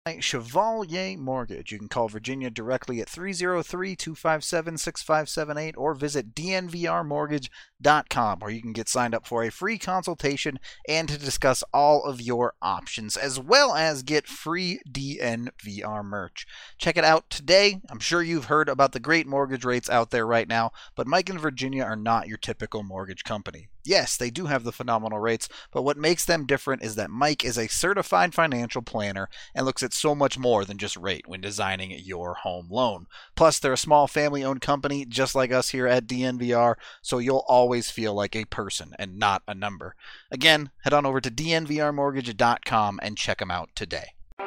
Chevalier Mortgage. You can call Virginia directly at 303-257-6578 or visit dnvrmortgage.com, where you can get signed up for a free consultation and to discuss all of your options, as well as get free DNVR merch. Check it out today. I'm sure you've heard about the great mortgage rates out there right now, but Mike and Virginia are not your typical mortgage company. Yes, they do have the phenomenal rates, but what makes them different is that Mike is a certified financial planner and looks at so much more than just rate when designing your home loan. Plus, they're a small family-owned company just like us here at DNVR, so you'll always feel like a person and not a number. Again, head on over to dnvrmortgage.com and check them out today.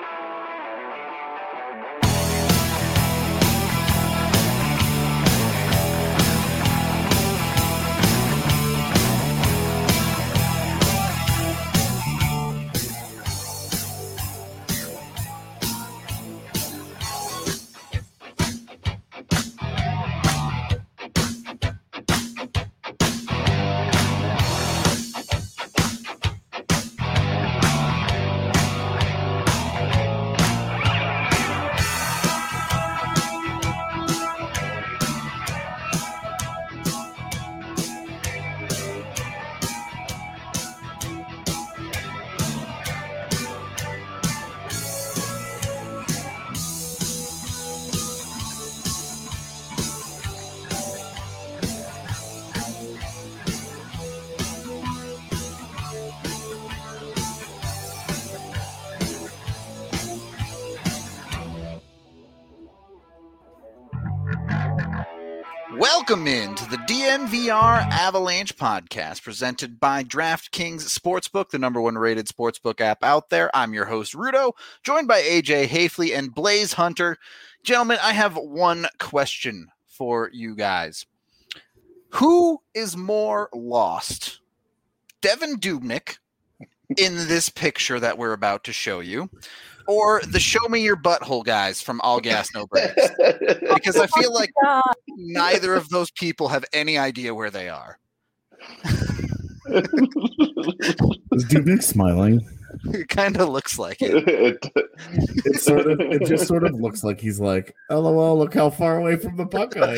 Welcome into the DNVR Avalanche podcast presented by DraftKings Sportsbook, the number one rated sportsbook app out there. I'm your host, Rudo, joined by AJ Hafley and Blaze Hunter. Gentlemen, I have one question for you guys. Who is more lost? Devan Dubnyk in this picture that we're about to show you, or the show me your butthole guys from All Gas No Breaks? Because I feel like neither of those people have any idea where they are. Is Dubnyk smiling? It kind of looks like it. It just sort of looks like he's like, LOL, look how far away from the puck I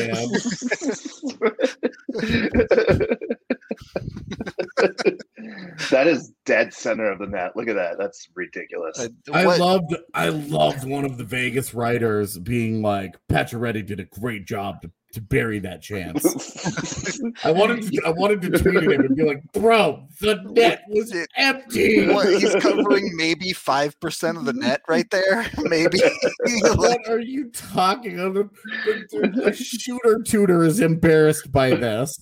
am. That is dead center of the net. Look at that. That's ridiculous. I loved one of the Vegas writers being like, Pacioretty did a great job to bury that chance. I wanted to tweet at him and be like, bro, the net was empty. He's covering maybe 5% of the net right there. Maybe. What are you talking about? The shooter tutor is embarrassed by this.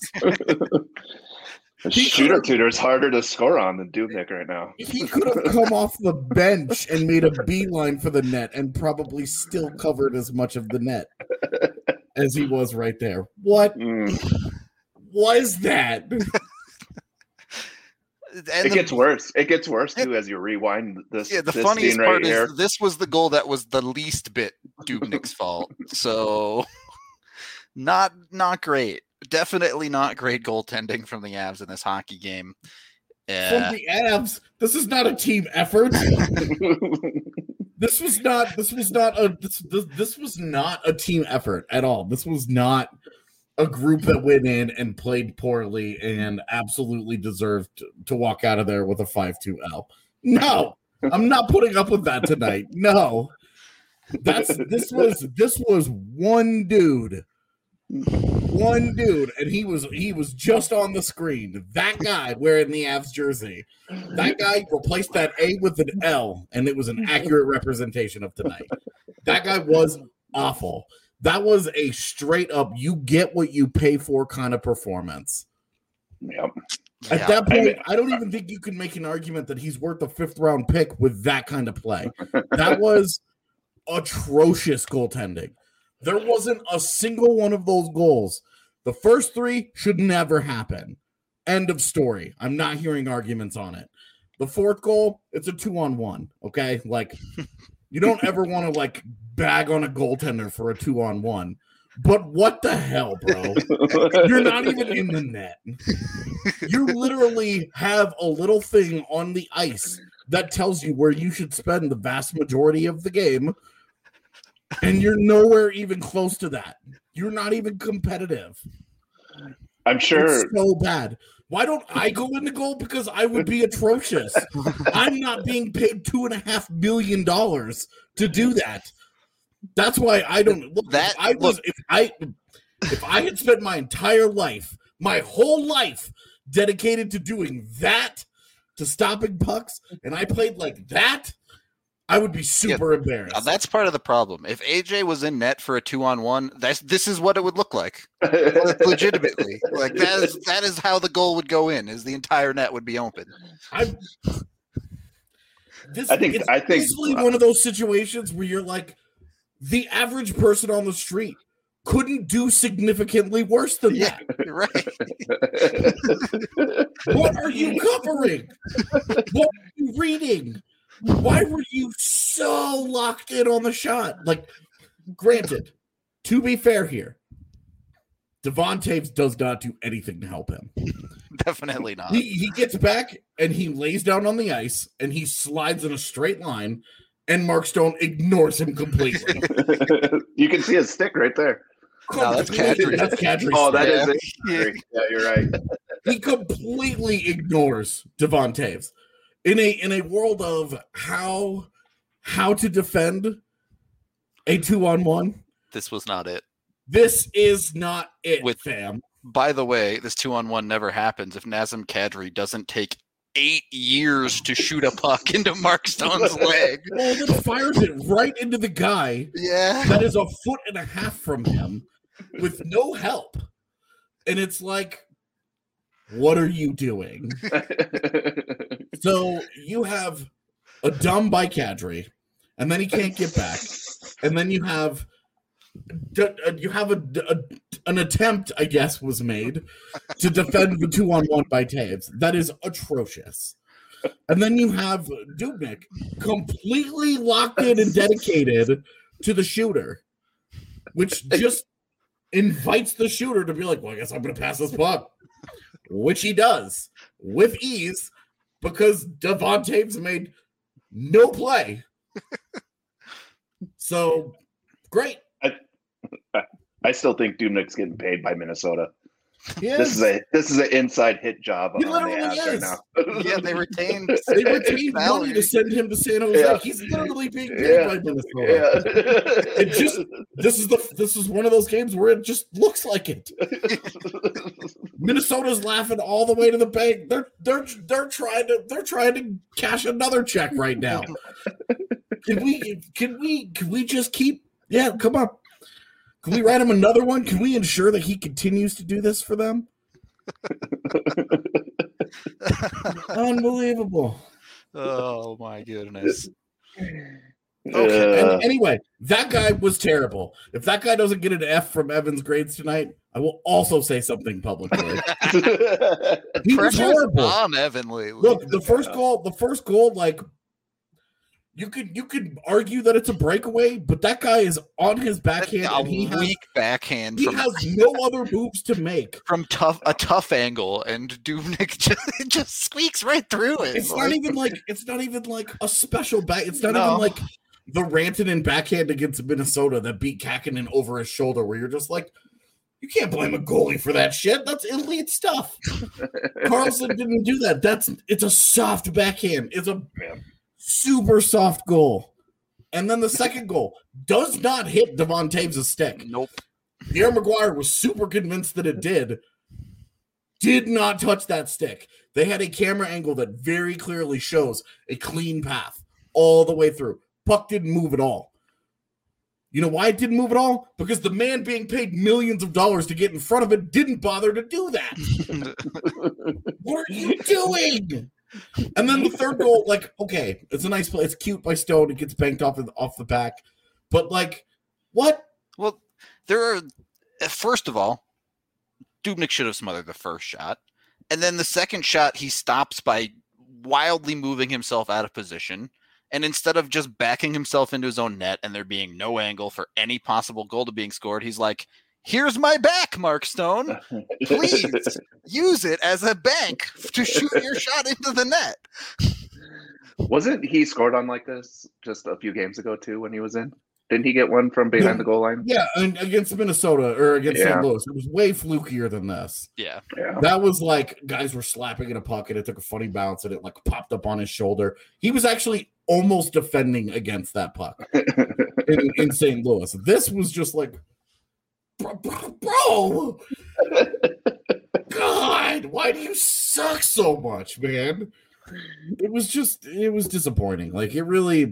Shooter tutor is harder to score on than Dubnyk right now. He could have come off the bench and made a beeline for the net and probably still covered as much of the net as he was right there. What was that? It gets worse. It gets worse too as you rewind this. Yeah, the this funniest scene part right here. is this was the goal that was the least bit Dubnyk's fault. So not great. Definitely not great goaltending from the Avs in this hockey game. From the Avs, this is not a team effort. This was not a team effort at all. This was not a group that went in and played poorly and absolutely deserved to walk out of there with a 5-2 L. No, I'm not putting up with that tonight. No, this was one dude, and he was just on the screen. That guy wearing the Avs jersey, that guy replaced that A with an L, and it was an accurate representation of tonight. That guy was awful. That was a straight up, you get what you pay for kind of performance. Yep. At that point, I don't even think you can make an argument that he's worth a 5th round pick with that kind of play. That was atrocious goaltending. There wasn't a single one of those goals. The first 3 should never happen. End of story. I'm not hearing arguments on it. The 4th goal, it's a 2-on-1. Okay, like you don't ever want to like bag on a goaltender for a 2-on-1. But what the hell, bro? You're not even in the net. You literally have a little thing on the ice that tells you where you should spend the vast majority of the game, and you're nowhere even close to that. You're not even competitive. I'm sure. It's so bad. Why don't I go into goal? Because I would be atrocious. I'm not being paid $2.5 million to do that. That's why I don't look. If I had spent my entire life, my whole life, dedicated to doing that, to stopping pucks, and I played like that, I would be super embarrassed. Now that's part of the problem. If AJ was in net for a 2-on-1, this is what it would look like. Legitimately. Like that is how the goal would go in, is the entire net would be open. I think it's easily one of those situations where you're like, the average person on the street couldn't do significantly worse than that. Right. What are you covering? What are you reading? Why were you so locked in on the shot? Like, granted, to be fair here, Devon Toews does not do anything to help him. Definitely not. He gets back and he lays down on the ice and he slides in a straight line, and Mark Stone ignores him completely. You can see his stick right there. No, that's Kadri. That's Kadri. Oh, that is it. Yeah, you're right. He completely ignores Devon Toews. In a world of how to defend a 2-on-1, this was not it. This is not it, fam. By the way, this 2-on-1 never happens if Nazem Kadri doesn't take 8 years to shoot a puck into Mark Stone's leg. Well, then fires it right into the guy that is 1.5 feet from him with no help. And it's like, what are you doing? So you have a dumb by Kadri, and then he can't get back. And then you have an attempt, I guess, was made to defend the 2-on-1 by Toews. That is atrocious. And then you have Dubnyk completely locked in and dedicated to the shooter, which just invites the shooter to be like, well, I guess I'm going to pass this puck, which he does with ease because Devon Toews made no play. So, great. I still think Dubnyk's getting paid by Minnesota. Yes. This is an inside hit job He on the literally Avs is. right now. Yeah, they retained money to send him to San Jose. Yeah. He's literally being paid by Minnesota. This is one of those games where it just looks like it. Minnesota's laughing all the way to the bank. They're trying to cash another check right now. Can we just keep? Yeah, come on. Can we write him another one? Can we ensure that he continues to do this for them? Unbelievable. Oh my goodness. Okay. And anyway, that guy was terrible. If that guy doesn't get an F from Evan's grades tonight, I will also say something publicly. He was horrible. On Evan lately. Look, the first goal, like you could argue that it's a breakaway, but that guy is on his backhand. A weak backhand. He has no other moves to make from a tough angle, and Dubnyk just squeaks right through it. It's not even like a special back. It's not even like the Rantanen backhand against Minnesota that beat Kakinen over his shoulder, where you're just like, you can't blame a goalie for that shit. That's elite stuff. Carlson didn't do that. It's a soft backhand. It's a super soft goal. And then the second goal does not hit Devon Toews' stick. Nope. Pierre Maguire was super convinced that it did. Did not touch that stick. They had a camera angle that very clearly shows a clean path all the way through. Puck didn't move at all. You know why it didn't move at all? Because the man being paid millions of dollars to get in front of it didn't bother to do that. What are you doing? And then the third goal, like, okay, it's a nice play. It's cute by Stone. It gets banked off the back. But, like, what? Well, first of all, Dubnyk should have smothered the first shot. And then the second shot, he stops by wildly moving himself out of position. And instead of just backing himself into his own net and there being no angle for any possible goal to being scored, he's like, here's my back, Mark Stone. Please use it as a bank to shoot your shot into the net. Wasn't he scored on like this just a few games ago too when he was in? Didn't he get one from behind the goal line? Yeah, and against Minnesota or against St. Louis. It was way flukier than this. Yeah. That was like guys were slapping in a puck and it took a funny bounce and it like popped up on his shoulder. He was actually almost defending against that puck in St. Louis. This was just like, bro, God, why do you suck so much, man? It was disappointing. Like, it really...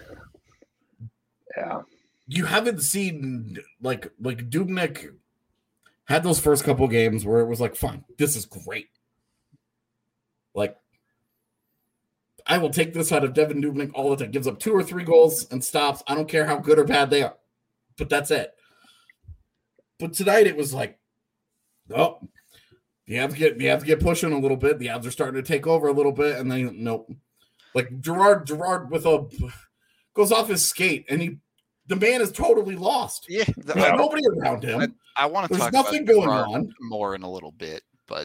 Yeah. You haven't seen like Dubnyk had those first couple games where it was like, fine, this is great. Like, I will take this out of Devan Dubnyk all the time. Gives up 2 or 3 goals and stops. I don't care how good or bad they are. But that's it. But tonight it was like, oh, you have to get pushing a little bit. The Avs are starting to take over a little bit, and then nope. Like Gerard with a goes off his skate, and the man is totally lost. Yeah, there's nobody around him. I want to talk nothing about going on more in a little bit, but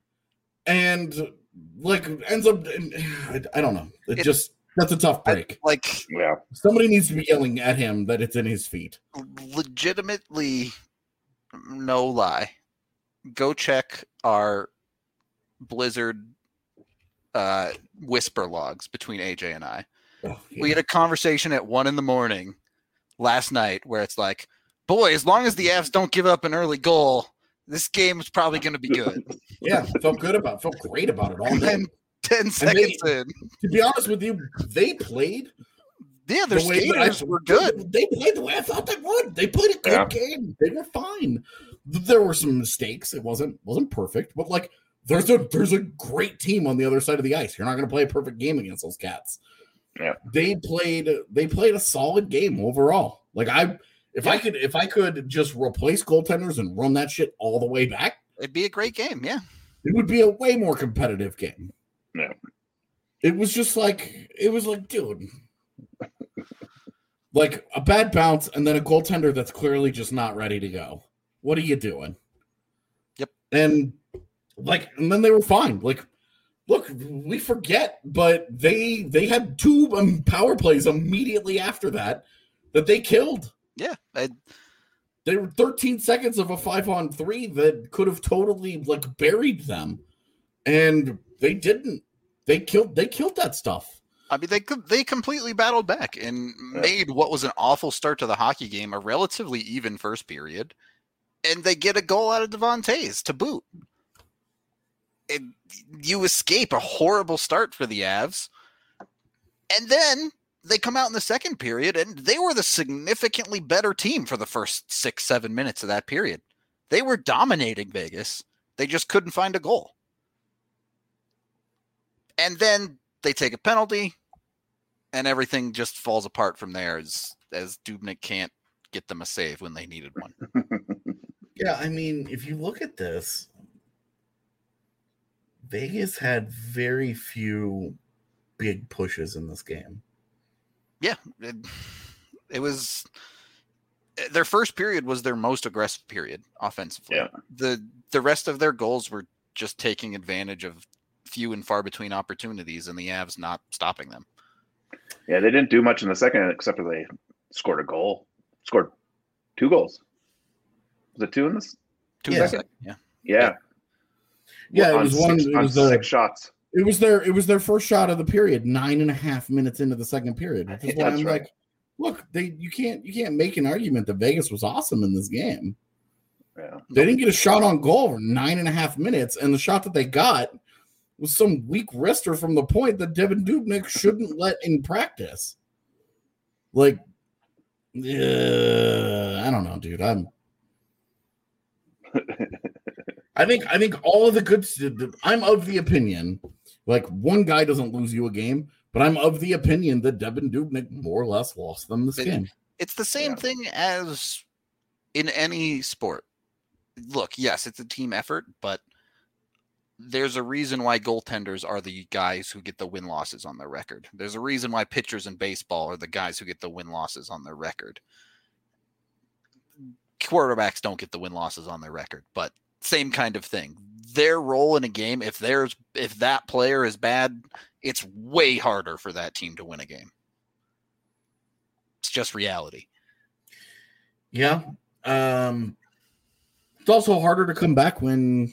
like ends up. I don't know. That's a tough break. Somebody needs to be yelling at him that it's in his feet. Legitimately, no lie. Go check our Blizzard whisper logs between AJ and I. Oh, yeah. We had a conversation at 1 a.m. last night where it's like, boy, as long as the Avs don't give up an early goal, this game is probably going to be good. Yeah, felt great about it all day. And 10 seconds in. To be honest with you, they played. Yeah, their skaters were good. They played the way I thought they would. They played a good game. They were fine. There were some mistakes. It wasn't perfect, but like there's a great team on the other side of the ice. You're not going to play a perfect game against those Cats. Yeah. They played a solid game overall. Like if I could just replace goaltenders and run that shit all the way back, it'd be a great game. Yeah. It would be a way more competitive game. Yeah. It was like, dude, like a bad bounce and then a goaltender that's clearly just not ready to go. What are you doing? Yep. And then they were fine. Like, look, we forget, but they had 2 power plays immediately after that they killed. Yeah. They were 13 seconds of a 5-on-3 that could have totally like buried them. And they didn't. They killed that stuff. I mean, they completely battled back and made what was an awful start to the hockey game a relatively even first period. And they get a goal out of Devon Toews to boot. You escape a horrible start for the Avs. And then they come out in the second period, and they were the significantly better team for the first 6-7 minutes of that period. They were dominating Vegas. They just couldn't find a goal. And then they take a penalty, and everything just falls apart from there as Dubnyk can't get them a save when they needed one. Yeah, I mean, if you look at this, Vegas had very few big pushes in this game. Yeah, it was their first period was their most aggressive period offensively. Yeah. The rest of their goals were just taking advantage of few and far between opportunities and the Avs not stopping them. Yeah, they didn't do much in the second except for they scored a goal. Scored 2 goals. Was it 2 in this? 2 in the second. Yeah. Yeah. Yeah, it was 6 shots. It was their first shot of the period, 9.5 minutes into the second period. Which is why I'm like, look, you can't make an argument that Vegas was awesome in this game. Yeah. They didn't get a shot on goal for 9.5 minutes, and the shot that they got was some weak wrister from the point that Devan Dubnyk shouldn't let in practice. Like, I don't know, dude. I think all of the good. I'm of the opinion, like one guy doesn't lose you a game, but I'm of the opinion that Devan Dubnyk more or less lost them this game. It's the same thing as in any sport. Look, yes, it's a team effort, but there's a reason why goaltenders are the guys who get the win-losses on their record. There's a reason why pitchers in baseball are the guys who get the win-losses on their record. Quarterbacks don't get the win-losses on their record, but same kind of thing. Their role in a game, if that player is bad, it's way harder for that team to win a game. It's just reality. Yeah. It's also harder to come back when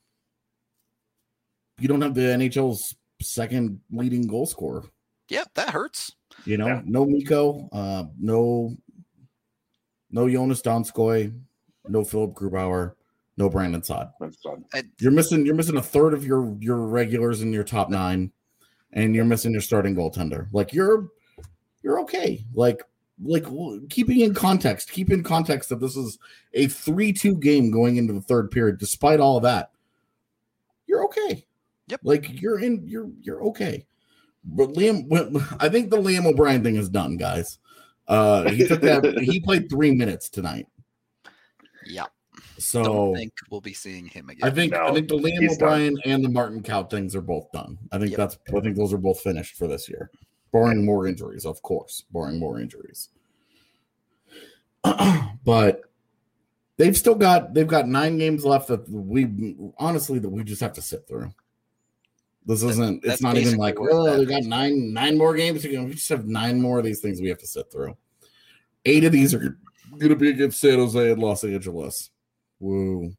you don't have the NHL's second leading goal scorer. Yeah, that hurts. No Mikko, no Jonas Donskoy, no Philip Grubauer, no Brandon Saad. You're missing a third of your regulars in your top 9, and you're missing your starting goaltender. Like you're okay. Like keep in context that this is a 3-2 game going into the third period. Despite all of that, you're okay. Yep. Like you're okay. But I think the Liam O'Brien thing is done, guys. He played 3 minutes tonight. Yeah. So don't think we'll be seeing him again. I think the Liam O'Brien and the Martin Kaut things are both done. I think those are both finished for this year. Barring more injuries, of course. But they've got 9 games left that we just have to sit through. This isn't. It's not even like, they got nine more games. We just have 9 more of these things we have to sit through. 8 of these are going to be against San Jose and Los Angeles. Woo.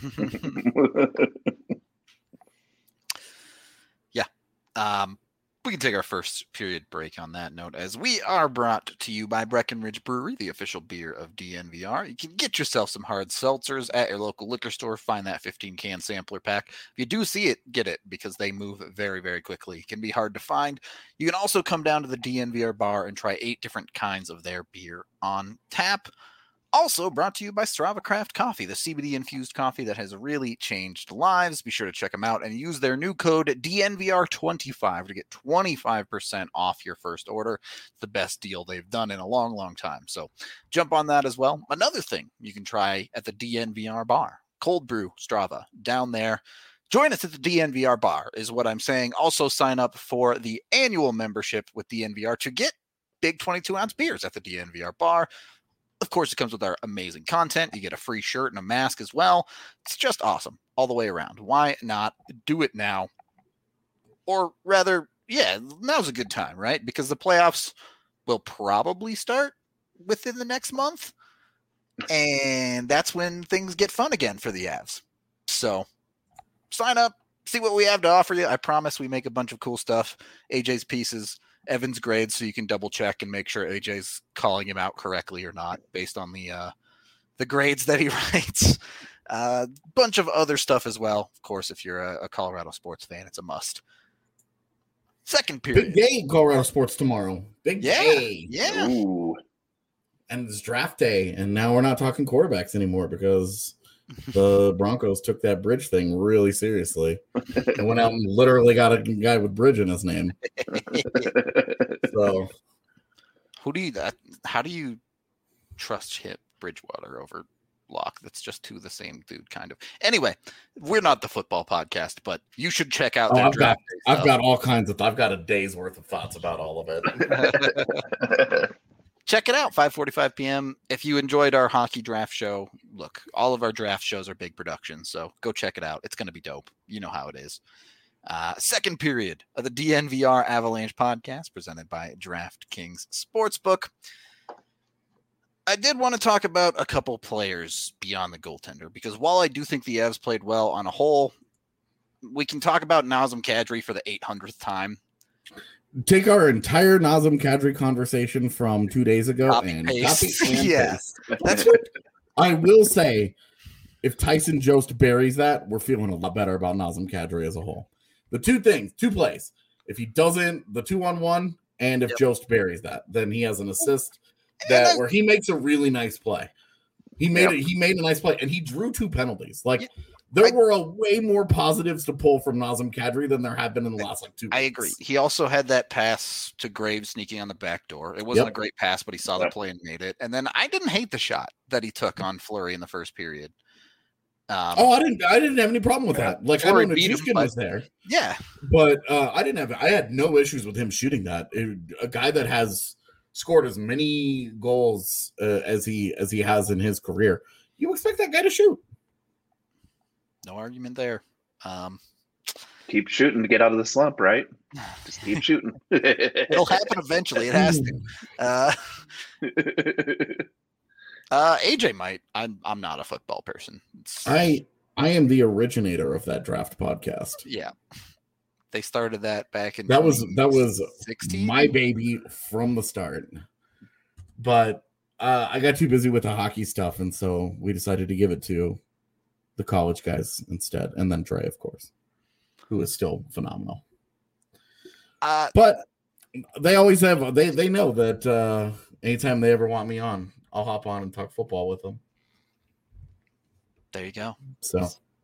Yeah. We can take our first period break on that note, as we are brought to you by Breckenridge Brewery, the official beer of DNVR. You can get yourself some hard seltzers at your local liquor store. Find that 15-can sampler pack. If you do see it, get it, because they move very, very quickly. It can be hard to find. You can also come down to the DNVR bar and try 8 different kinds of their beer on tap. Also brought to you by Strava Craft Coffee, the CBD-infused coffee that has really changed lives. Be sure to check them out and use their new code DNVR25 to get 25% off your first order. It's the best deal they've done in a long, long time. So jump on that as well. Another thing you can try at the DNVR bar, cold brew Strava, down there. Join us at the DNVR bar is what I'm saying. Also sign up for the annual membership with DNVR to get big 22-ounce beers at the DNVR bar. Of course, it comes with our amazing content. You get a free shirt and a mask as well. It's just awesome all the way around. Why not do it now? Or rather, now's a good time, right? Because the playoffs will probably start within the next month. And that's when things get fun again for the Avs. So sign up, see what we have to offer you. I promise we make a bunch of cool stuff. AJ's pieces, Evan's grades, so you can double check and make sure AJ's calling him out correctly or not based on the grades that he writes. Bunch of other stuff as well. Of course, if you're a Colorado sports fan, it's a must. Second period. Big day in Colorado sports tomorrow. Big day. Yeah. Ooh. And it's draft day, and now we're not talking quarterbacks anymore because the Broncos took that Bridge thing really seriously and went out and literally got a guy with Bridge in his name. So, how do you trust Bridgewater over Locke? That's just the same dude, kind of. Anyway, we're not the football podcast, but you should check out. I've got all kinds of. I've got a day's worth of thoughts about all of it. Check it out, 5:45 p.m. If you enjoyed our hockey draft show, look, all of our draft shows are big productions, so go check it out. It's going to be dope. You know how it is. Second period of the DNVR Avalanche podcast presented by DraftKings Sportsbook. I did want to talk about a couple players beyond the goaltender, because while I do think the Avs played well on a whole, we can talk about Nazem Kadri for the 800th time. Take our entire Nazem Kadri conversation from 2 days ago copy and paste. That's what I will say. If Tyson Jost buries that, we're feeling a lot better about Nazem Kadri as a whole. The two plays. If he doesn't, the 2-on-1, and if Jost buries that, then he has an assist where he makes a really nice play. He made a nice play, and he drew 2 penalties. There were way more positives to pull from Nazem Kadri than there have been in the last 2 weeks. I agree. He also had that pass to Graves sneaking on the back door. It wasn't a great pass, but he saw the play and made it. And then I didn't hate the shot that he took on Fleury in the first period. I didn't have any problem with that. I know Nichushkin was there. Yeah. But I had no issues with him shooting that. A guy that has scored as many goals as he has in his career, you expect that guy to shoot. No argument there. Keep shooting to get out of the slump, right? Just keep shooting. It'll happen eventually. It has to. AJ might. I'm not a football person. I am the originator of that draft podcast. Yeah. They started that back in that was 16? My baby from the start. But I got too busy with the hockey stuff, and so we decided to give it to the college guys instead, and then Trey, of course, who is still phenomenal. But they always have they know that anytime they ever want me on, I'll hop on and talk football with them. There you go. So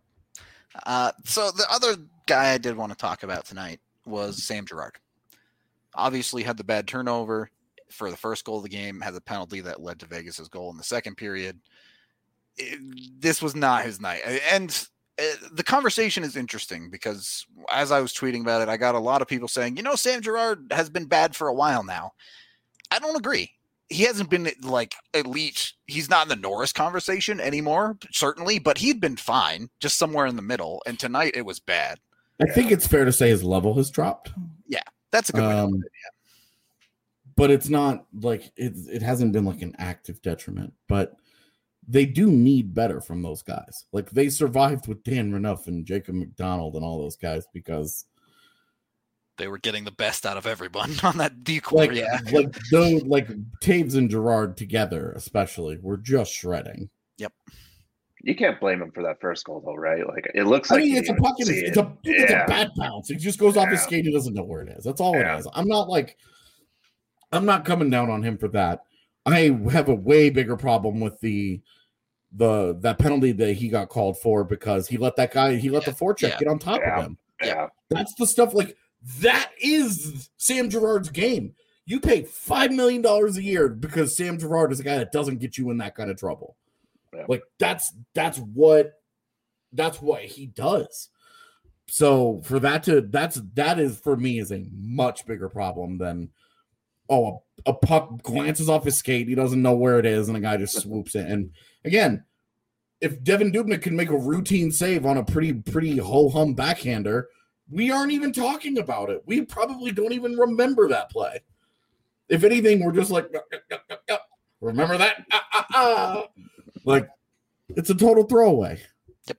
the other guy I did want to talk about tonight was Sam Girard. Obviously had the bad turnover for the first goal of the game, had the penalty that led to Vegas's goal in the second period. This was not his night. And the conversation is interesting because as I was tweeting about it, I got a lot of people saying, Sam Girard has been bad for a while now. I don't agree. He hasn't been like elite. He's not in the Norris conversation anymore, certainly, but he'd been fine, just somewhere in the middle. And tonight it was bad. I think it's fair to say his level has dropped. Yeah, that's a good way to put it. Yeah. But it's not like it hasn't been like an active detriment, but they do need better from those guys. Like they survived with Dan Renouf and Jacob McDonald and all those guys because they were getting the best out of everyone on that decor. Like Taves and Girard together, especially, were just shredding. Yep. You can't blame him for that first goal, though, right? Like it looks I like mean, it's a puck. It's a bad bounce. It just goes off his skate. He doesn't know where it is. That's all it is. I'm not coming down on him for that. I have a way bigger problem with that penalty that he got called for because he let the forecheck get on top of him. Yeah. That's the stuff that is Sam Girard's game. You pay $5 million a year because Sam Girard is a guy that doesn't get you in that kind of trouble. Yeah. Like that's what he does. So for that is for me is a much bigger problem than a puck glances off his skate, he doesn't know where it is, and a guy just swoops it. And again, if Devin Dubnyk can make a routine save on a pretty ho-hum backhander, we aren't even talking about it. We probably don't even remember that play. If anything, we're just like, remember that? Like, it's a total throwaway. Yep.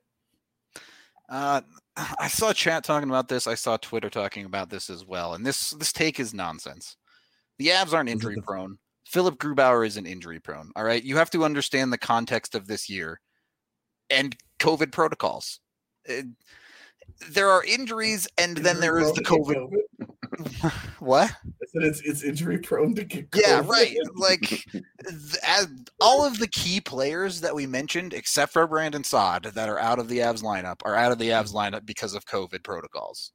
I saw chat talking about this. I saw Twitter talking about this as well. And this take is nonsense. The Avs aren't injury prone. Philip Grubauer isn't injury prone. All right. You have to understand the context of this year and COVID protocols. There are injuries, and then there is the COVID. What? I said it's injury prone to get COVID. Yeah, right. Like all of the key players that we mentioned, except for Brandon Saad, that are out of the Avs lineup, are out of the Avs lineup because of COVID protocols.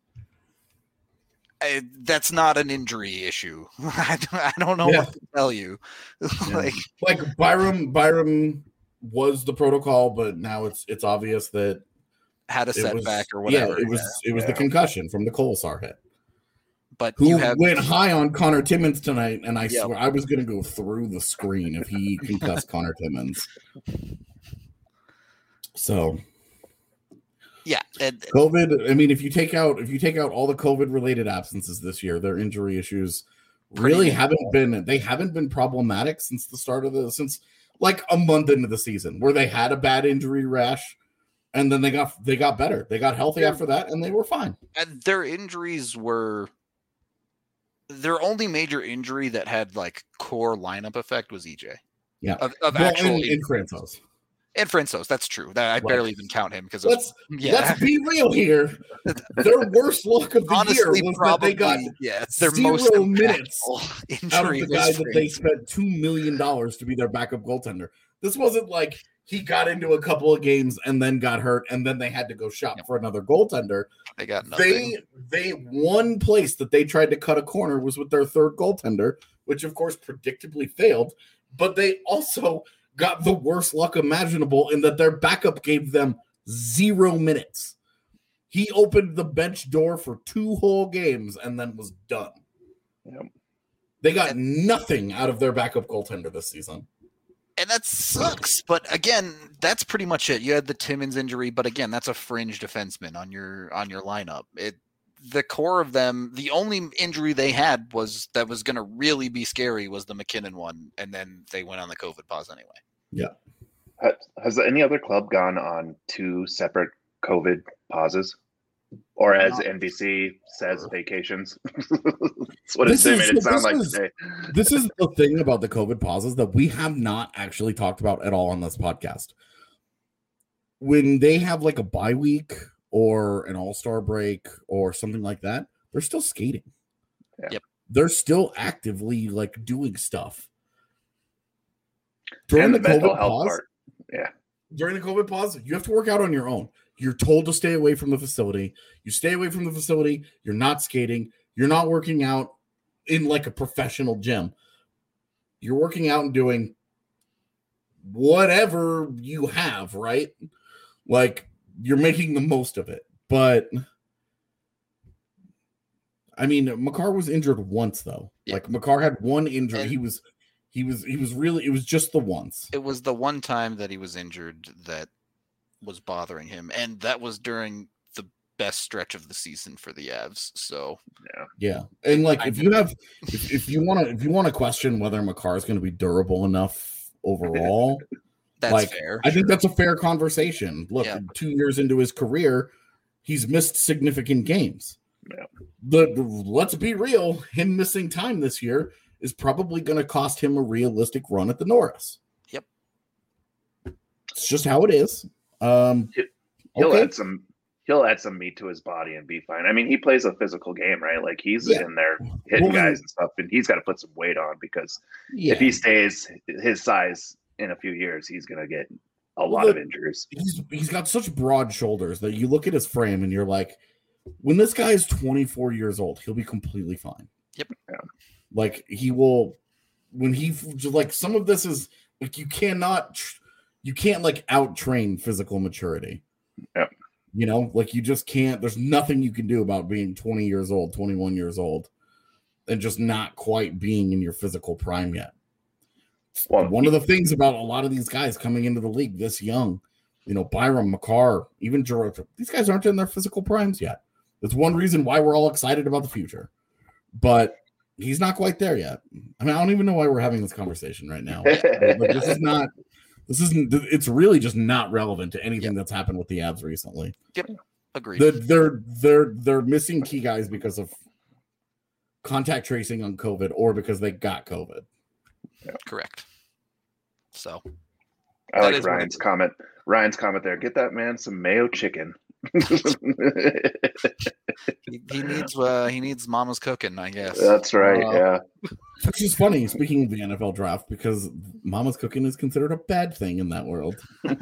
That's not an injury issue. I don't know what to tell you. like Byram was the protocol, but now it's obvious that had a setback or whatever. Yeah, it was the concussion from the Kolesar hit. But who went high on Connor Timmins tonight, and I swear I was going to go through the screen if he concussed Connor Timmins. So, yeah, COVID. I mean, if you take out all the COVID related absences this year, their injury issues really haven't been problematic since like a month into the season, where they had a bad injury rash. And then they got better. They got healthy after that, and they were fine. And their injuries were their only major injury that had like core lineup effect was EJ. Yeah, in Francouz. And Francouz, that's true. That I barely even count him because let's be real here. Their worst luck of the year was probably, that they got their 0 minutes out of the guy that they spent $2 million to be their backup goaltender. This wasn't like he got into a couple of games and then got hurt, and then they had to go shop for another goaltender. They got nothing. They one place that they tried to cut a corner was with their third goaltender, which of course predictably failed. But they also got the worst luck imaginable in that their backup gave them 0 minutes. He opened the bench door for 2 whole games and then was done. Yep. They got nothing out of their backup goaltender this season. And that sucks. But again, that's pretty much it. You had the Timmins injury, but again, that's a fringe defenseman on your lineup. The core of them, the only injury they had was going to really be scary was the McKinnon one, and then they went on the COVID pause anyway. Yeah. Has any other club gone on 2 separate COVID pauses? Or as NBC says, vacations. That's what they made it sound like today. This is the thing about the COVID pauses that we have not actually talked about at all on this podcast. When they have like a bye week or an all-star break or something like that, they're still skating. Yeah. Yep. They're still actively like doing stuff. During the mental health part. Yeah. During the COVID pause, you have to work out on your own. You're told to stay away from the facility. You stay away from the facility. You're not skating. You're not working out in like a professional gym. You're working out and doing whatever you have, right? Like you're making the most of it. But I mean, Makar was injured once though. Yeah. Like Makar had one injury. And he was really, it was just the once. It was the one time that he was injured that was bothering him, and that was during the best stretch of the season for the Avs. So yeah, and like if you want to question whether Makar is going to be durable enough overall, that's fair. I think that's a fair conversation. Look, 2 years into his career, he's missed significant games. Yeah. Let's be real, him missing time this year is probably going to cost him a realistic run at the Norris. Yep, it's just how it is. He'll add some meat to his body and be fine. I mean, he plays a physical game, right? Like he's in there hitting guys and stuff, and he's got to put some weight on because if he stays his size in a few years, he's going to get a lot of injuries. He's got such broad shoulders that you look at his frame and you're like, when this guy is 24 years old, he'll be completely fine. Yep. Yeah. Like he will, when he like some of this is like you can't like out train physical maturity. Yep. You know, like you just can't. There's nothing you can do about being 20 years old, 21 years old, and just not quite being in your physical prime yet. Well, one of the things about a lot of these guys coming into the league this young, you know, Byram, Makar, even George, these guys aren't in their physical primes yet. That's one reason why we're all excited about the future. But he's not quite there yet. I mean, I don't even know why we're having this conversation right now. Like, it's really just not relevant to anything that's happened with the Avs recently. Yep. Agreed. They're missing key guys because of contact tracing on COVID or because they got COVID. Yeah. Correct. So I like Ryan's comment. Ryan's comment there. Get that man some mayo chicken. he needs mama's cooking, I guess. That's right. Yeah. Which is funny, speaking of the NFL draft, because mama's cooking is considered a bad thing in that world.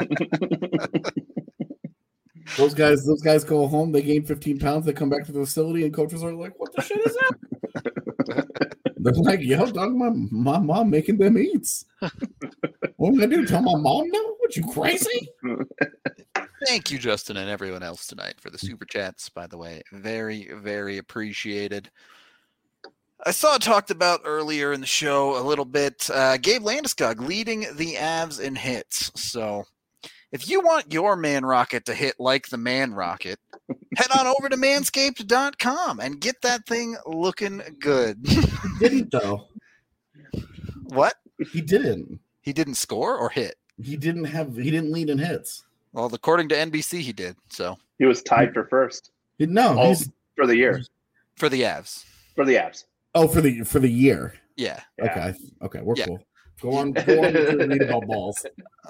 Those guys go home, they gain 15 pounds, they come back to the facility, and coaches are like, "What the shit is that?" They're like, "Yo, dog, my mom making them eats. What am I gonna do? Tell my mom no? What, you crazy?" Thank you, Justin, and everyone else tonight for the super chats, by the way. Very, very appreciated. I saw it talked about earlier in the show a little bit. Gabe Landeskog leading the Avs in hits. So if you want your Man Rocket to hit like the Man Rocket, head on over to manscaped.com and get that thing looking good. He didn't, though. What? He didn't. He didn't score or hit? He didn't lead in hits. Well, according to NBC, he did. So he was tied for first. No, for the year. For the Avs. For the Avs. Oh, for the year. Yeah. Okay, we're cool. Go on to read about balls.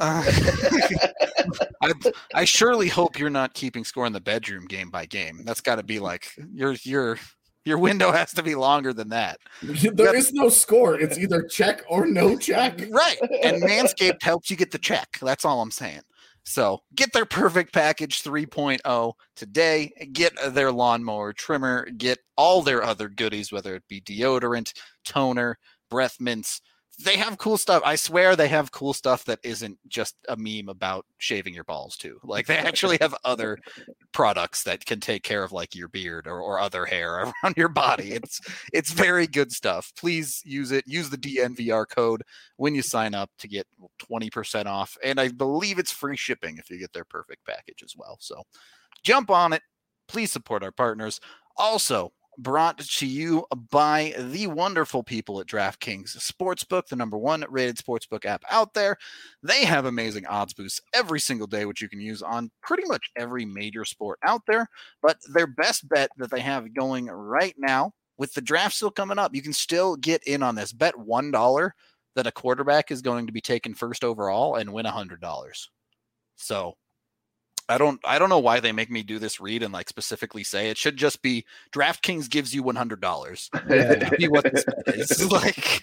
I surely hope you're not keeping score in the bedroom game by game. That's got to be like your window has to be longer than that. There is no score. It's either check or no check. Right. And Manscaped helps you get the check. That's all I'm saying. So get their Perfect Package 3.0 today. Get their lawnmower trimmer. Get all their other goodies, whether it be deodorant, toner, breath mints. They have cool stuff. I swear they have cool stuff that isn't just a meme about shaving your balls too. Like they actually have other products that can take care of like your beard or other hair around your body. It's very good stuff. Please use it. Use the DNVR code when you sign up to get 20% off. And I believe it's free shipping if you get their perfect package as well. So jump on it. Please support our partners. Also, brought to you by the wonderful people at DraftKings Sportsbook, the #1 rated sportsbook app out there. They have amazing odds boosts every single day, which you can use on pretty much every major sport out there. But their best bet that they have going right now, with the draft still coming up, you can still get in on this. Bet $1 that a quarterback is going to be taken first overall and win $100. So I don't know why they make me do this read and like specifically say it should just be DraftKings gives you $100. Yeah. Be what this is like.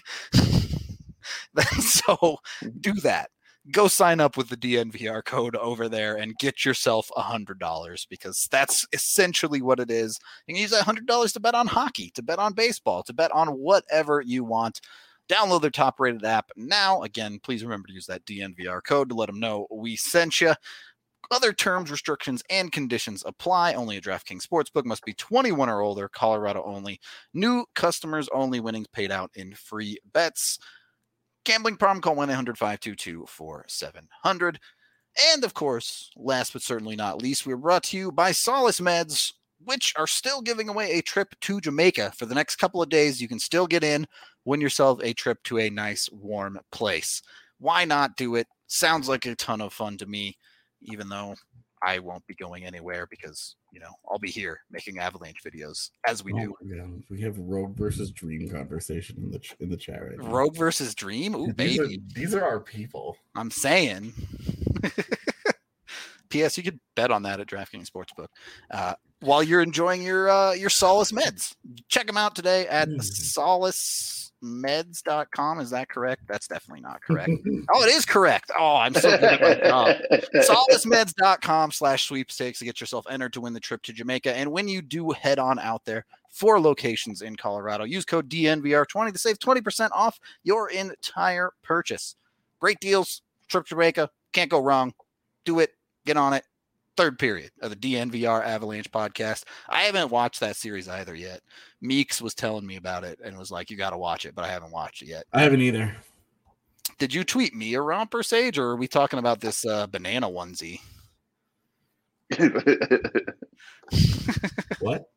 So do that. Go sign up with the DNVR code over there and get yourself $100 because that's essentially what it is. You can use that $100 to bet on hockey, to bet on baseball, to bet on whatever you want. Download their top-rated app now. Again, please remember to use that DNVR code to let them know we sent you. Other terms, restrictions, and conditions apply. Only a DraftKings Sportsbook. Must be 21 or older. Colorado only. New customers only. Winnings paid out in free bets. Gambling problem? Call 1-800-522-4700. And, of course, last but certainly not least, we're brought to you by Solace Meds, which are still giving away a trip to Jamaica. For the next couple of days, you can still get in, win yourself a trip to a nice, warm place. Why not do it? Sounds like a ton of fun to me. Even though I won't be going anywhere because, I'll be here making Avalanche videos as we do. We have Rogue versus Dream conversation in the chat right now. Rogue versus Dream? Ooh, baby. These are our people. I'm saying. P.S. You could bet on that at DraftKings Sportsbook. While you're enjoying your Solace Meds. Check them out today at solacemeds.com. Is that correct? That's definitely not correct. Oh, it is correct. Oh, I'm so good at my job. solacemeds.com/sweepstakes to get yourself entered to win the trip to Jamaica. And when you do head on out there, 4 locations in Colorado, use code DNVR20 to save 20% off your entire purchase. Great deals. Trip to Jamaica. Can't go wrong. Do it. Get on it. Third period of the DNVR Avalanche podcast. I haven't watched that series either yet. Meeks was telling me about it and was like, you got to watch it, but I haven't watched it yet. I haven't either. Did you tweet me a romper, Sage, or are we talking about this banana onesie? What?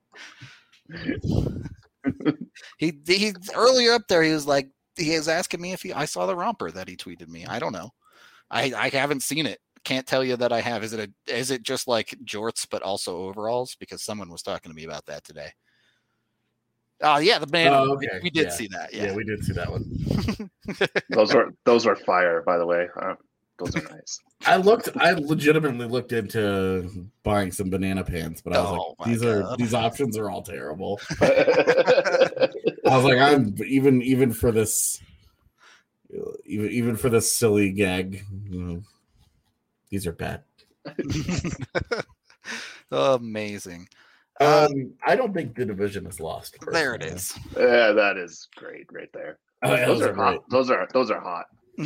he earlier up there, he was like, he was asking me if I saw the romper that he tweeted me. I don't know. I haven't seen it. Can't tell you that I have. Is it just like jorts but also overalls? Because someone was talking to me about that today. Oh yeah, the band. Oh, okay. We did see that. Yeah, we did see that one. those are fire, by the way. Those are nice. I legitimately looked into buying some banana pants, but I was these options are all terrible. I was like, I'm even for this silly gag. These are bad. Amazing. I don't think the division is lost. Personally. There it is. Yeah, that is great right there. Oh, yeah, those are hot. Those are hot.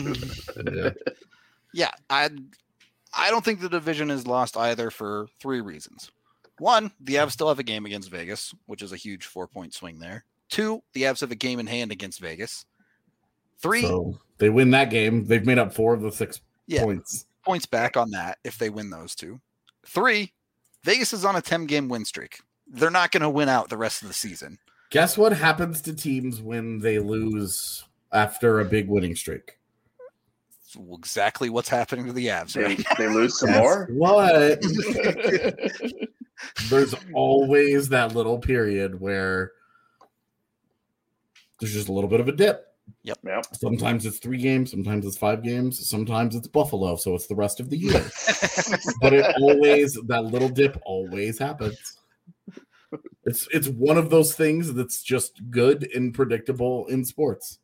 Yeah, I don't think the division is lost either for 3 reasons. 1, the Avs still have a game against Vegas, which is a huge 4-point swing there. 2, the Avs have a game in hand against Vegas. 3, so they win that game. They've made up 4 of the 6 points. Points back on that if they win those 2. 3, Vegas is on a 10-game win streak. They're not going to win out the rest of the season. Guess what happens to teams when they lose after a big winning streak? Exactly what's happening to the Avs. Right? They lose some more? What? There's always that little period where there's just a little bit of a dip. Yep. Sometimes it's 3 games, sometimes it's 5 games, sometimes it's Buffalo, so it's the rest of the year. But that little dip always happens. It's one of those things that's just good and predictable in sports.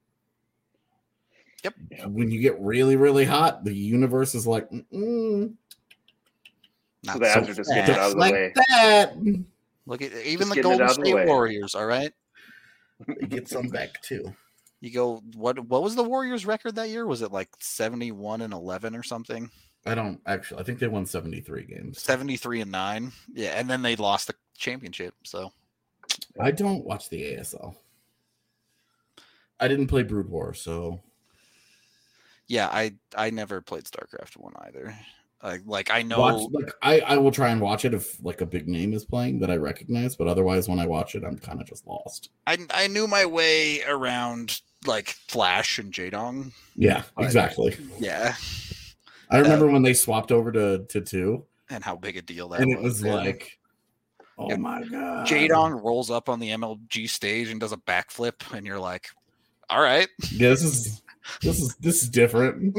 Yep. When you get really, really hot, the universe is like, so the Avs are just getting it out of the way. That. Look at even the Golden State Warriors. All right, they get some back too. You go. What was the Warriors' record that year? Was it like 71-11 or something? I don't actually. I think they won 73 games. 73-9. Yeah, and then they lost the championship. So I don't watch the ASL. I didn't play Brood War, so Yeah, I never played StarCraft 1 either. I know. I will try and watch it if like a big name is playing that I recognize, but otherwise when I watch it, I'm kind of just lost. I knew my way around like Flash and Jaedong. Yeah, exactly. Yeah. I remember when they swapped over to 2. And how big a deal that was. And it was like, oh my God. Jaedong rolls up on the MLG stage and does a backflip, and you're like, all right. Yeah, this is different.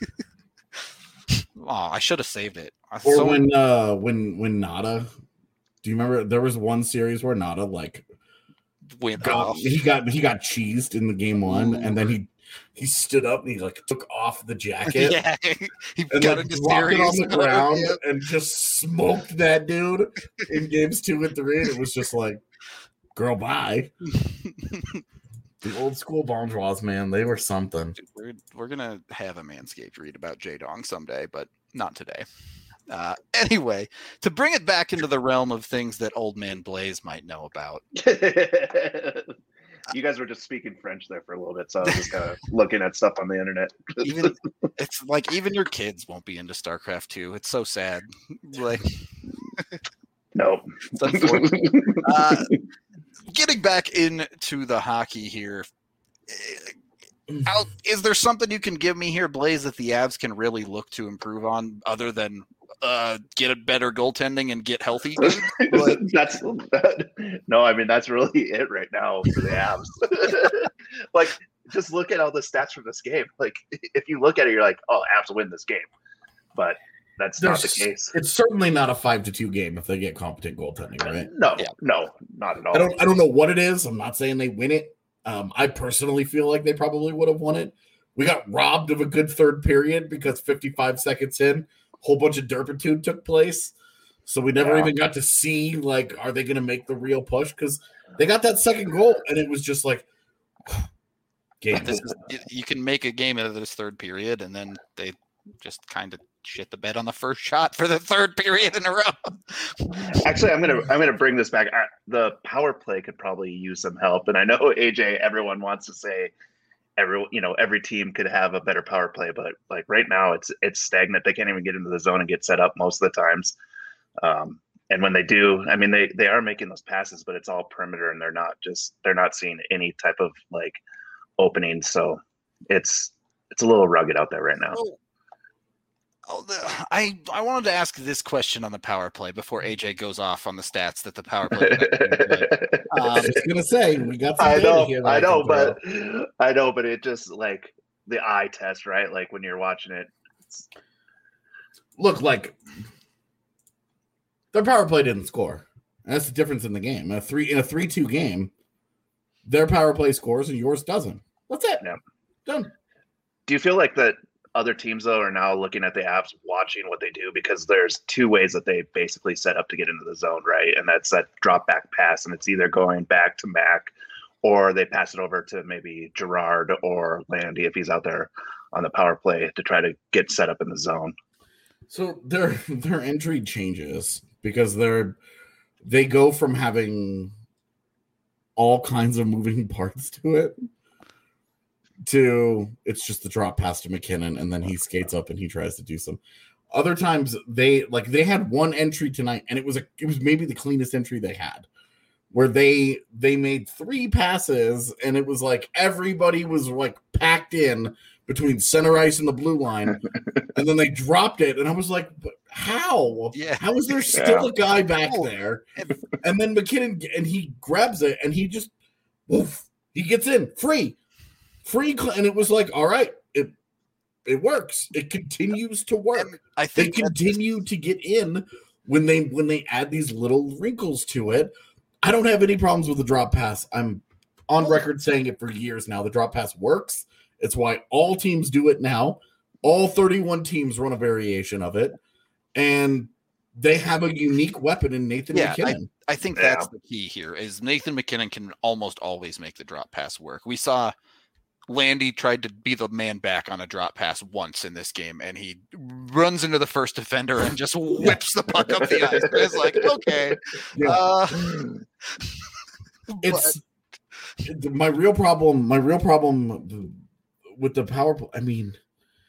Oh, I should have saved it. Or when Nada, do you remember there was one series where Nada like he got cheesed in the game 1, and then he stood up and he like took off the jacket. Yeah, he and got like, dropped it on the ground and just smoked that dude in games 2 and 3. And it was just like, girl, bye. The old school Bonjours, man, they were something. Dude, we're gonna have a Manscaped read about Jaedong someday, but not today. Anyway, to bring it back into the realm of things that Old Man Blaze might know about. You guys were just speaking French there for a little bit, so I was just kind of looking at stuff on the internet. It's like even your kids won't be into StarCraft 2. It's so sad. Like, nope. It's unfortunate. Getting back into the hockey here, is there something you can give me here, Blaze, that the Avs can really look to improve on other than get a better goaltending and get healthy? No, I mean, that's really it right now for the Avs. Like, just look at all the stats from this game. Like, if you look at it, you're like, oh, Avs win this game. But that's not the case. It's certainly not a 5-2 game if they get competent goaltending, right? No, not at all. I don't know what it is. I'm not saying they win it. I personally feel like they probably would have won it. We got robbed of a good third period because 55 seconds in, a whole bunch of derpitude took place. So we never even got to see, like, are they going to make the real push? Because they got that second goal, and it was just like, game. You can make a game out of this third period, and then they just kind of shit the bed on the first shot for the third period in a row. Actually, I'm gonna bring this back. The power play could probably use some help, and I know AJ. Everyone wants to say every team could have a better power play, but like right now, it's stagnant. They can't even get into the zone and get set up most of the times. And when they do, I mean, they are making those passes, but it's all perimeter, and they're not seeing any type of like opening. So it's a little rugged out there right now. I wanted to ask this question on the power play before AJ goes off on the stats that the power play. I was going to say we got. Some I know, but it just like the eye test, right? Like when you're watching it. Look, like their power play didn't score. That's the difference in the game. In a 3-2 game, their power play scores and yours doesn't. That's it. Yeah. Done. Do you feel like that other teams, though, are now looking at the Avs, watching what they do? Because there's two ways that they basically set up to get into the zone, right? And that's that drop back pass, and it's either going back to Mac or they pass it over to maybe Gerard or Landy if he's out there on the power play to try to get set up in the zone. So their entry changes because they go from having all kinds of moving parts to it to it's just the drop pass to McKinnon, and then he skates up and he tries to do some. Other times they had one entry tonight, and it was maybe the cleanest entry they had, where they made 3 passes, and it was like everybody was like packed in between center ice and the blue line, and then they dropped it, and I was like, how? Yeah. How is there still a guy back there? And then McKinnon, and he grabs it, and he just, he gets in, free, and it was like, all right, it works. It continues to work. I think they continue to get in when they add these little wrinkles to it. I don't have any problems with the drop pass. I'm on record saying it for years now. The drop pass works. It's why all teams do it now. All 31 teams run a variation of it, and they have a unique weapon in Nathan McKinnon. I think that's the key here. Is Nathan McKinnon can almost always make the drop pass work. We saw Landy tried to be the man back on a drop pass once in this game, and he runs into the first defender and just whips the puck up the ice. It's like, okay. It's my real problem with the power play. I mean,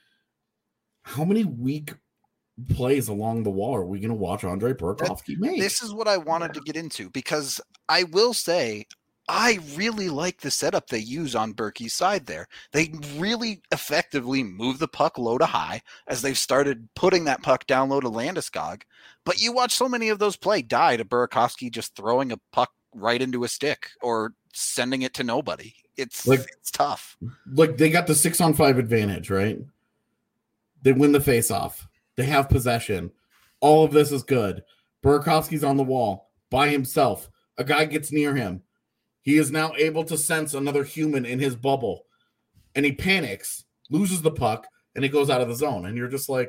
how many weak plays along the wall are we going to watch Andre Burakovsky make? This is what I wanted to get into, because I will say I really like the setup they use on Berkey's side there. They really effectively move the puck low to high as they've started putting that puck down low to Landeskog. But you watch so many of those play die to Burakovsky just throwing a puck right into a stick or sending it to nobody. It's tough. Like, they got the 6-on-5 advantage, right? They win the face-off. They have possession. All of this is good. Burakovsky's on the wall by himself. A guy gets near him. He is now able to sense another human in his bubble. And he panics, loses the puck, and he goes out of the zone. And you're just like,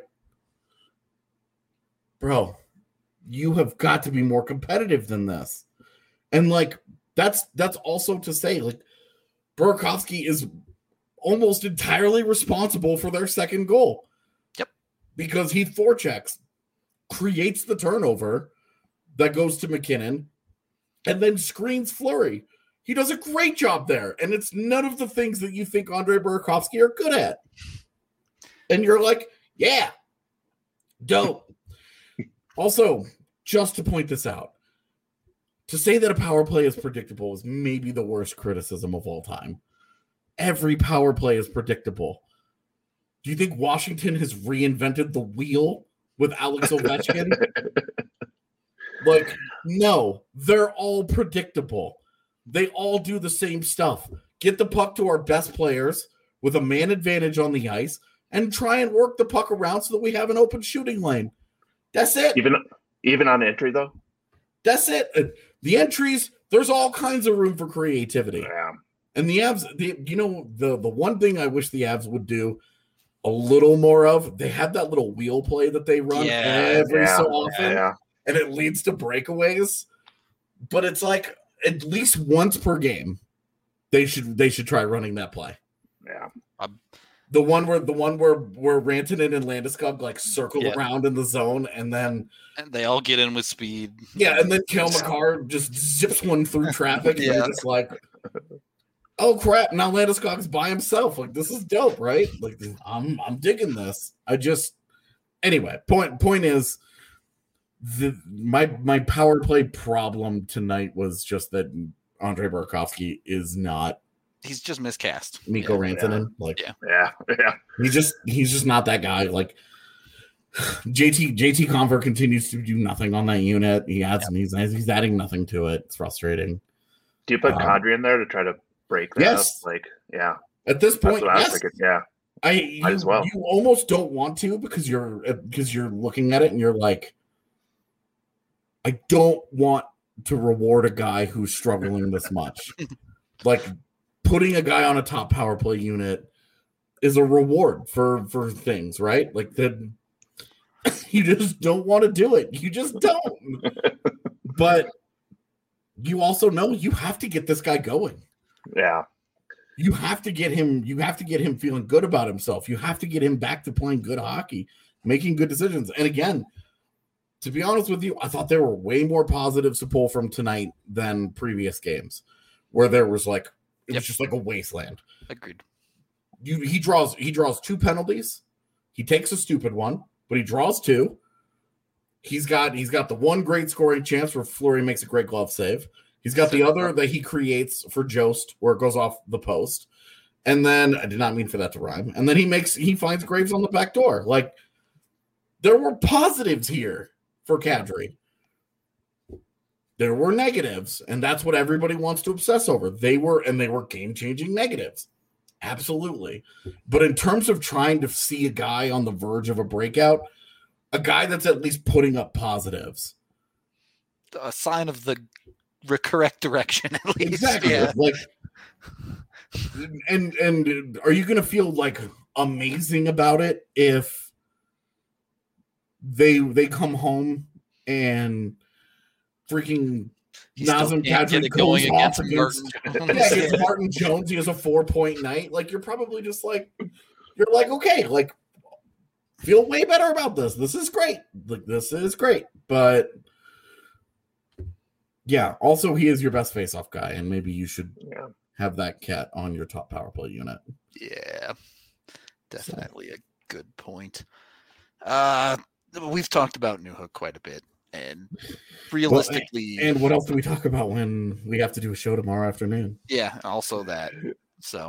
bro, you have got to be more competitive than this. And, like, that's also to say, like, Burakovsky is almost entirely responsible for their second goal. Because he forechecks, creates the turnover that goes to McKinnon, and then screens Fleury. He does a great job there, and it's none of the things that you think Andre Burakovsky are good at. And you're like, yeah, dope. Also, just to point this out, to say that a power play is predictable is maybe the worst criticism of all time. Every power play is predictable. Do you think Washington has reinvented the wheel with Alex Ovechkin? Like, no, they're all predictable. They all do the same stuff. Get the puck to our best players with a man advantage on the ice and try and work the puck around so that we have an open shooting lane. That's it. Even on entry, though? That's it. The entries, there's all kinds of room for creativity. Yeah. And the Avs, the one thing I wish the Avs would do a little more of, they have that little wheel play that they run every so often, and it leads to breakaways. But it's like at least once per game, they should try running that play. Yeah. The one where Rantanen and Landeskog like circle around in the zone, and they all get in with speed. Yeah, and then Cale Makar just zips one through traffic. And they're just like, oh crap! Now Landeskog's by himself. Like, this is dope, right? Like, I'm digging this. Anyway. Point is, my power play problem tonight was just that Andre Burakovsky is not. He's just miscast. Mikko Rantanen. Yeah. He's just not that guy. Like, JT Conver continues to do nothing on that unit. He's adding nothing to it. It's frustrating. Do you put Kadri in there to try to break that up? Like, yeah. At this point, that's what I was thinking. Yeah. Might as well. You almost don't want to because you're looking at it and you're like, I don't want to reward a guy who's struggling this much. Like, putting a guy on a top power play unit is a reward for things, right? Like, that you just don't want to do it. You just don't. But you also know you have to get this guy going. Yeah. You have to get him feeling good about himself. You have to get him back to playing good hockey, making good decisions. And again, to be honest with you, I thought there were way more positives to pull from tonight than previous games, where there was like it was just like a wasteland. Agreed. He draws 2 penalties. He takes a stupid one, but he draws 2. He's got the one great scoring chance where Fleury makes a great glove save. He's got the other that he creates for Jost where it goes off the post. And then I did not mean for that to rhyme. And then he finds Graves on the back door. Like, there were positives here for Kadri. There were negatives, and that's what everybody wants to obsess over. They were game-changing negatives. Absolutely. But in terms of trying to see a guy on the verge of a breakout, a guy that's at least putting up positives. A sign of the correct direction, at least. Exactly. Yeah. Like, and are you going to feel like amazing about it if they come home and freaking Nazem Kadri goes off against Martin Jones? He has a 4-point night. Like, you're probably just like, you're like, okay, like, feel way better about this. This is great. Like, this is great. But yeah, also he is your best face-off guy, and maybe you should have that cat on your top power play unit. Yeah, definitely a good point. We've talked about Newhook quite a bit, and realistically, and what else do we talk about when we have to do a show tomorrow afternoon? Yeah, also that. So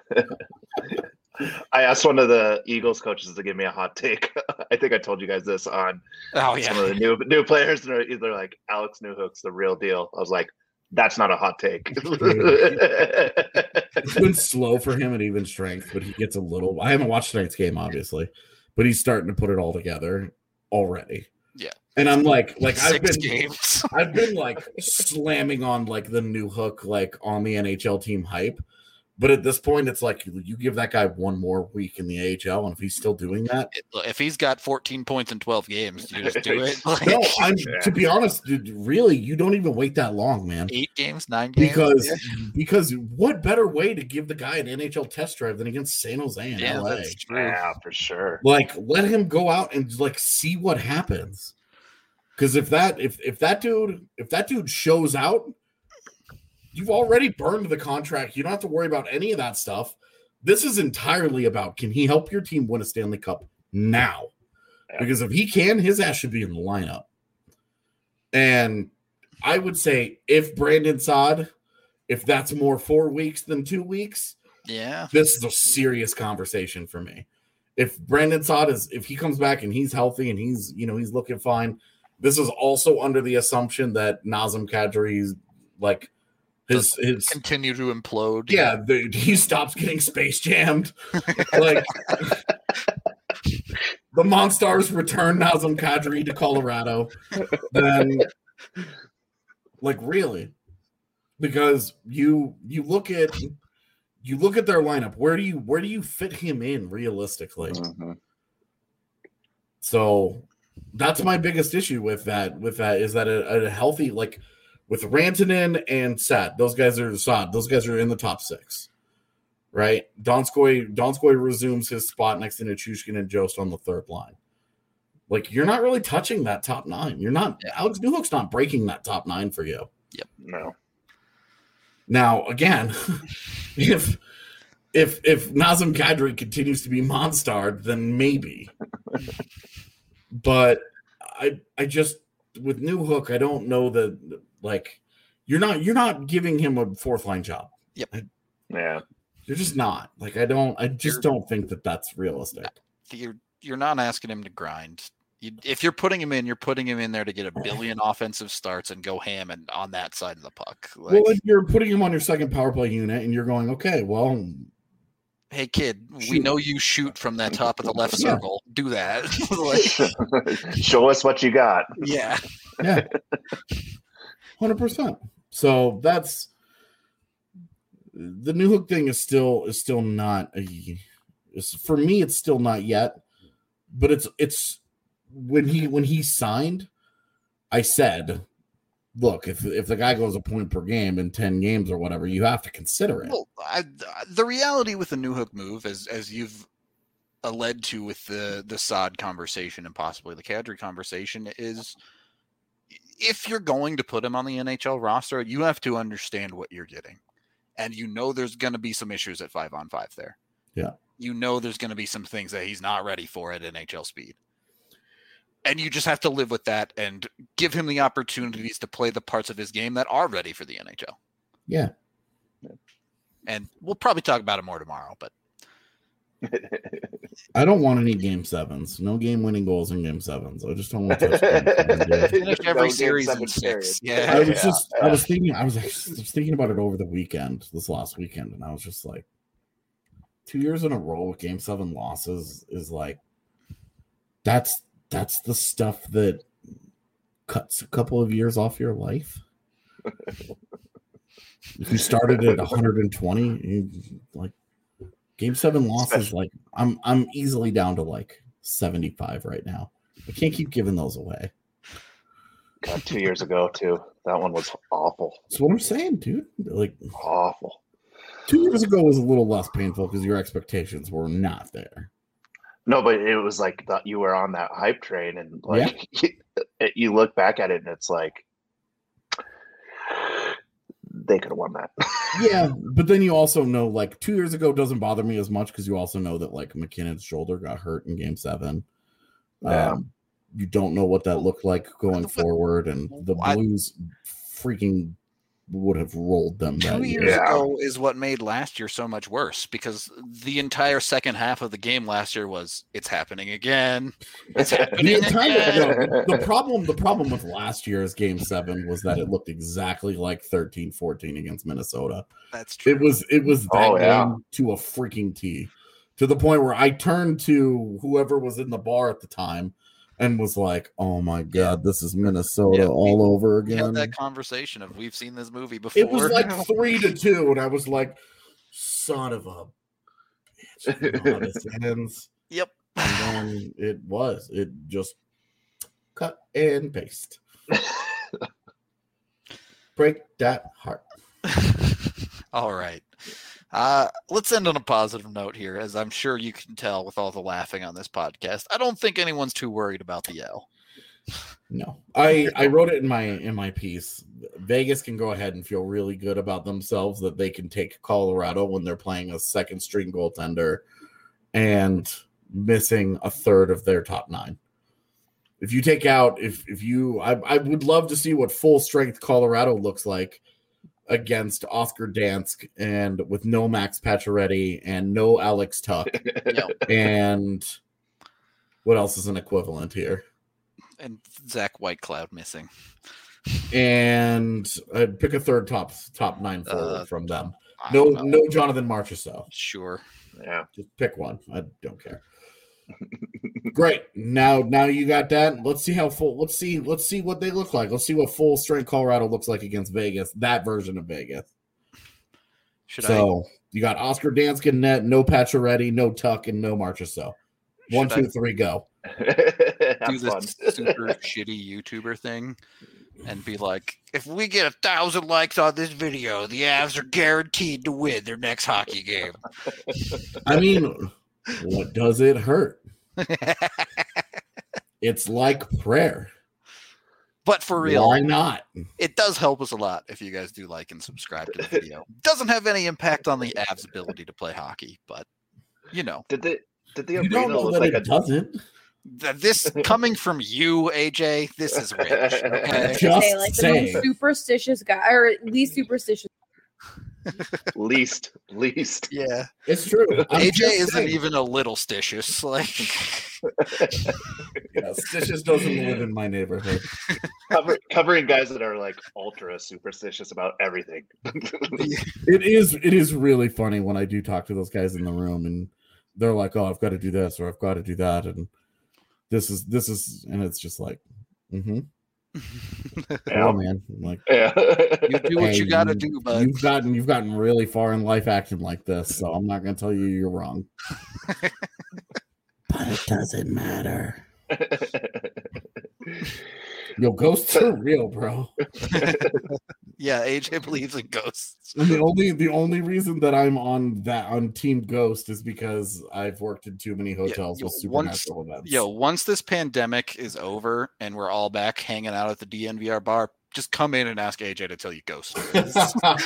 I asked one of the Eagles coaches to give me a hot take. I think I told you guys this on some of the new players, and they're like, Alex Newhook's the real deal. I was like, that's not a hot take. It's been slow for him at even strength, but he gets a little. I haven't watched tonight's game, obviously, but he's starting to put it all together already. Yeah. And I'm like I've been like slamming on like the Newhook like on the NHL team hype. But at this point, it's like you give that guy one more week in the AHL, and if he's still doing that, if he's got 14 points in 12 games, you just do it. Like, no, to be honest, dude, really, you don't even wait that long, man. 8 games, 9 games, because what better way to give the guy an NHL test drive than against San Jose and LA? That's true. Yeah, for sure. Like, let him go out and like see what happens. Because if that dude shows out. You've already burned the contract. You don't have to worry about any of that stuff. This is entirely about, can he help your team win a Stanley Cup now? Yeah. Because if he can, his ass should be in the lineup. And I would say if Brandon Saad, if that's more 4 weeks than 2 weeks, this is a serious conversation for me. If Brandon Saad if he comes back and he's healthy and he's looking fine, this is also under the assumption that Nazem Kadri's like, his continue to implode. Yeah, he stops getting space jammed. Like the Monstars return Nazem Kadri to Colorado. Then, like, really, because you look at their lineup. Where do you fit him in realistically? Mm-hmm. So that's my biggest issue with that is that a healthy like. With Rantanen and Saad, those guys are in the top 6, right? Donskoy resumes his spot next to Nichushkin and Jost on the third line. Like, you're not really touching that top 9. You're not. Alex Newhook's not breaking that top 9 for you. Yep. No. Now, again, if Nazem Kadri continues to be Monstarred, then maybe. But I just with Newhook, I don't know that. Like, you're not giving him a 4th line job. Yep. Yeah. You're just not. Like, I don't think that that's realistic. You're not asking him to grind. If you're putting him in there to get a billion offensive starts and go ham and on that side of the puck. Like, well, if you're putting him on your second power play unit and you're going, okay, well, hey kid, we know you shoot from that top of the left circle. Do that. Show us what you got. Yeah. Yeah. 100%. So that's the Newhook thing is still not for me. It's still not yet, but it's when he signed. I said, look, if the guy goes a point per game in 10 games or whatever, you have to consider it. Well, the reality with the Newhook move, as you've led to with the Saad conversation and possibly the Kadri conversation, is. If you're going to put him on the NHL roster, you have to understand what you're getting. And there's going to be some issues at 5-on-5 there. Yeah. There's going to be some things that he's not ready for at NHL speed. And you just have to live with that and give him the opportunities to play the parts of his game that are ready for the NHL. Yeah. And we'll probably talk about it more tomorrow, but I don't want any game 7s. No game-winning goals in game 7s. I just don't want to finish every series in 6. Yeah. I was thinking about it over the weekend, this last weekend, and I was just like, 2 years in a row with game 7 losses is like that's the stuff that cuts a couple of years off your life. If you started at 120, like game 7 losses, like I'm easily down to like 75 right now. I can't keep giving those away. God, 2 years ago too. That one was awful. That's what I'm saying, dude. Like awful. 2 years ago was a little less painful because your expectations were not there. No, but it was like you were on that hype train, and like you look back at it, and it's like they could have won that. Yeah, but then you also know, like 2 years ago doesn't bother me as much because you also know that like McKinnon's shoulder got hurt in game 7. You don't know what that looked like going forward, and the Blues freaking would have rolled them that 2 year. years ago is what made last year so much worse, because the entire second half of the game last year was it's happening again. It's happening again. The problem with last year's Game 7 was that it looked exactly like 13-14 against Minnesota. That's true. It was that game to a freaking T, to the point where I turned to whoever was in the bar at the time and was like, "Oh my God, this is Minnesota all over again." We had that conversation of we've seen this movie before. It was like 3-2, and I was like, "Son of a bitch!" You know how this ends. Yep. And then it just cut and paste. Break that heart. All right. Let's end on a positive note here, as I'm sure you can tell with all the laughing on this podcast. I don't think anyone's too worried about the L. No, I wrote it in my piece. Vegas can go ahead and feel really good about themselves that they can take Colorado when they're playing a second string goaltender and missing a third of their top 9. If you take out, I would love to see what full strength Colorado looks like against Oscar Dansk and with no Max Pacioretty and no Alex Tuck. And what else is an equivalent here? And Zach Whitecloud missing. And I'd pick a third top 9 forward from them. No Jonathan Marchessault. Sure. Yeah. Just pick one. I don't care. Great. Now you got that. Let's see how full. Let's see what they look like. Let's see what full strength Colorado looks like against Vegas. That version of Vegas. You got Oscar Dansk in net, no Pacioretty, no Tuck, and no Marchessault. 1, 2, 3, go. Do this super shitty YouTuber thing and be like, if we get 1,000 likes on this video, the Avs are guaranteed to win their next hockey game. I mean, what does it hurt? It's like prayer. But for real, why not? It does help us a lot if you guys do like and subscribe to the video. Doesn't have any impact on the Avs' ability to play hockey, but Did the you arena don't know look that like it doesn't. This coming from you, AJ, this is rich. Okay? Just like saying. the most superstitious guy, or at least superstitious. least? Yeah, It's true. AJ isn't even a little stitious. Like, stitious doesn't live in my neighborhood. Covering guys that are like ultra superstitious about everything. It is really funny when I do talk to those guys in the room and they're like, "Oh, I've got to do this or I've got to do that," and this is, and it's just like, Yeah. Oh man, I'm like, you do what you got to do, bud. You've gotten really far in life acting like this, so I'm not going to tell you you're wrong. But it doesn't matter. Yo, ghosts are real, bro. Yeah, AJ believes in ghosts. And the only reason that I'm on Team Ghost is because I've worked in too many hotels with supernatural events. Once this pandemic is over and we're all back hanging out at the DNVR bar, just come in and ask AJ to tell you ghost stories.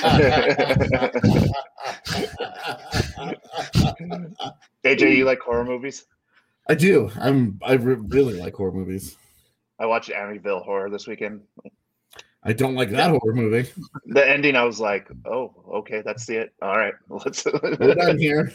AJ, you like horror movies? I do. I really like horror movies. I watched Amityville Horror this weekend. I don't like that horror movie. The ending, I was like, "Oh, okay, that's it. All right, we're done here."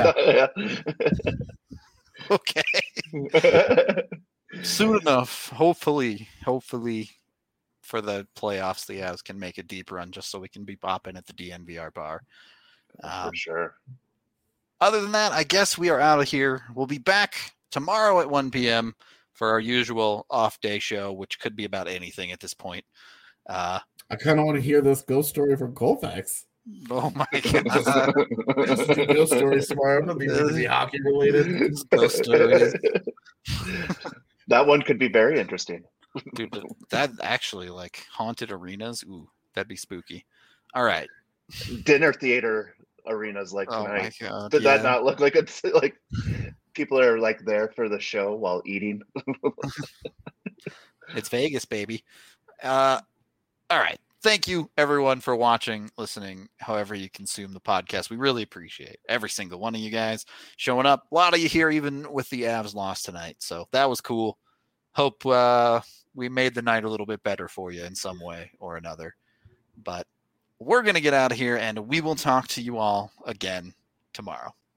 Okay. Soon enough, hopefully, for the playoffs, the Avs can make a deep run just so we can be bopping at the DNVR bar. For sure. Other than that, I guess we are out of here. We'll be back tomorrow at 1 p.m. for our usual off-day show, which could be about anything at this point. I kind of want to hear this ghost story from Colfax. Oh my god! Ghost stories tomorrow. It'll be hockey related. Ghost stories. That one could be very interesting, dude. That actually, like, haunted arenas. Ooh, that'd be spooky. All right, dinner theater arenas like tonight. Oh my god! Did that not look like it's like people are like there for the show while eating? It's Vegas, baby. All right. thank you, everyone, for watching, listening, however you consume the podcast. We really appreciate every single one of you guys showing up. A lot of you here, even with the Avs loss tonight. So that was cool. Hope we made the night a little bit better for you in some way or another. But we're going to get out of here, and we will talk to you all again tomorrow.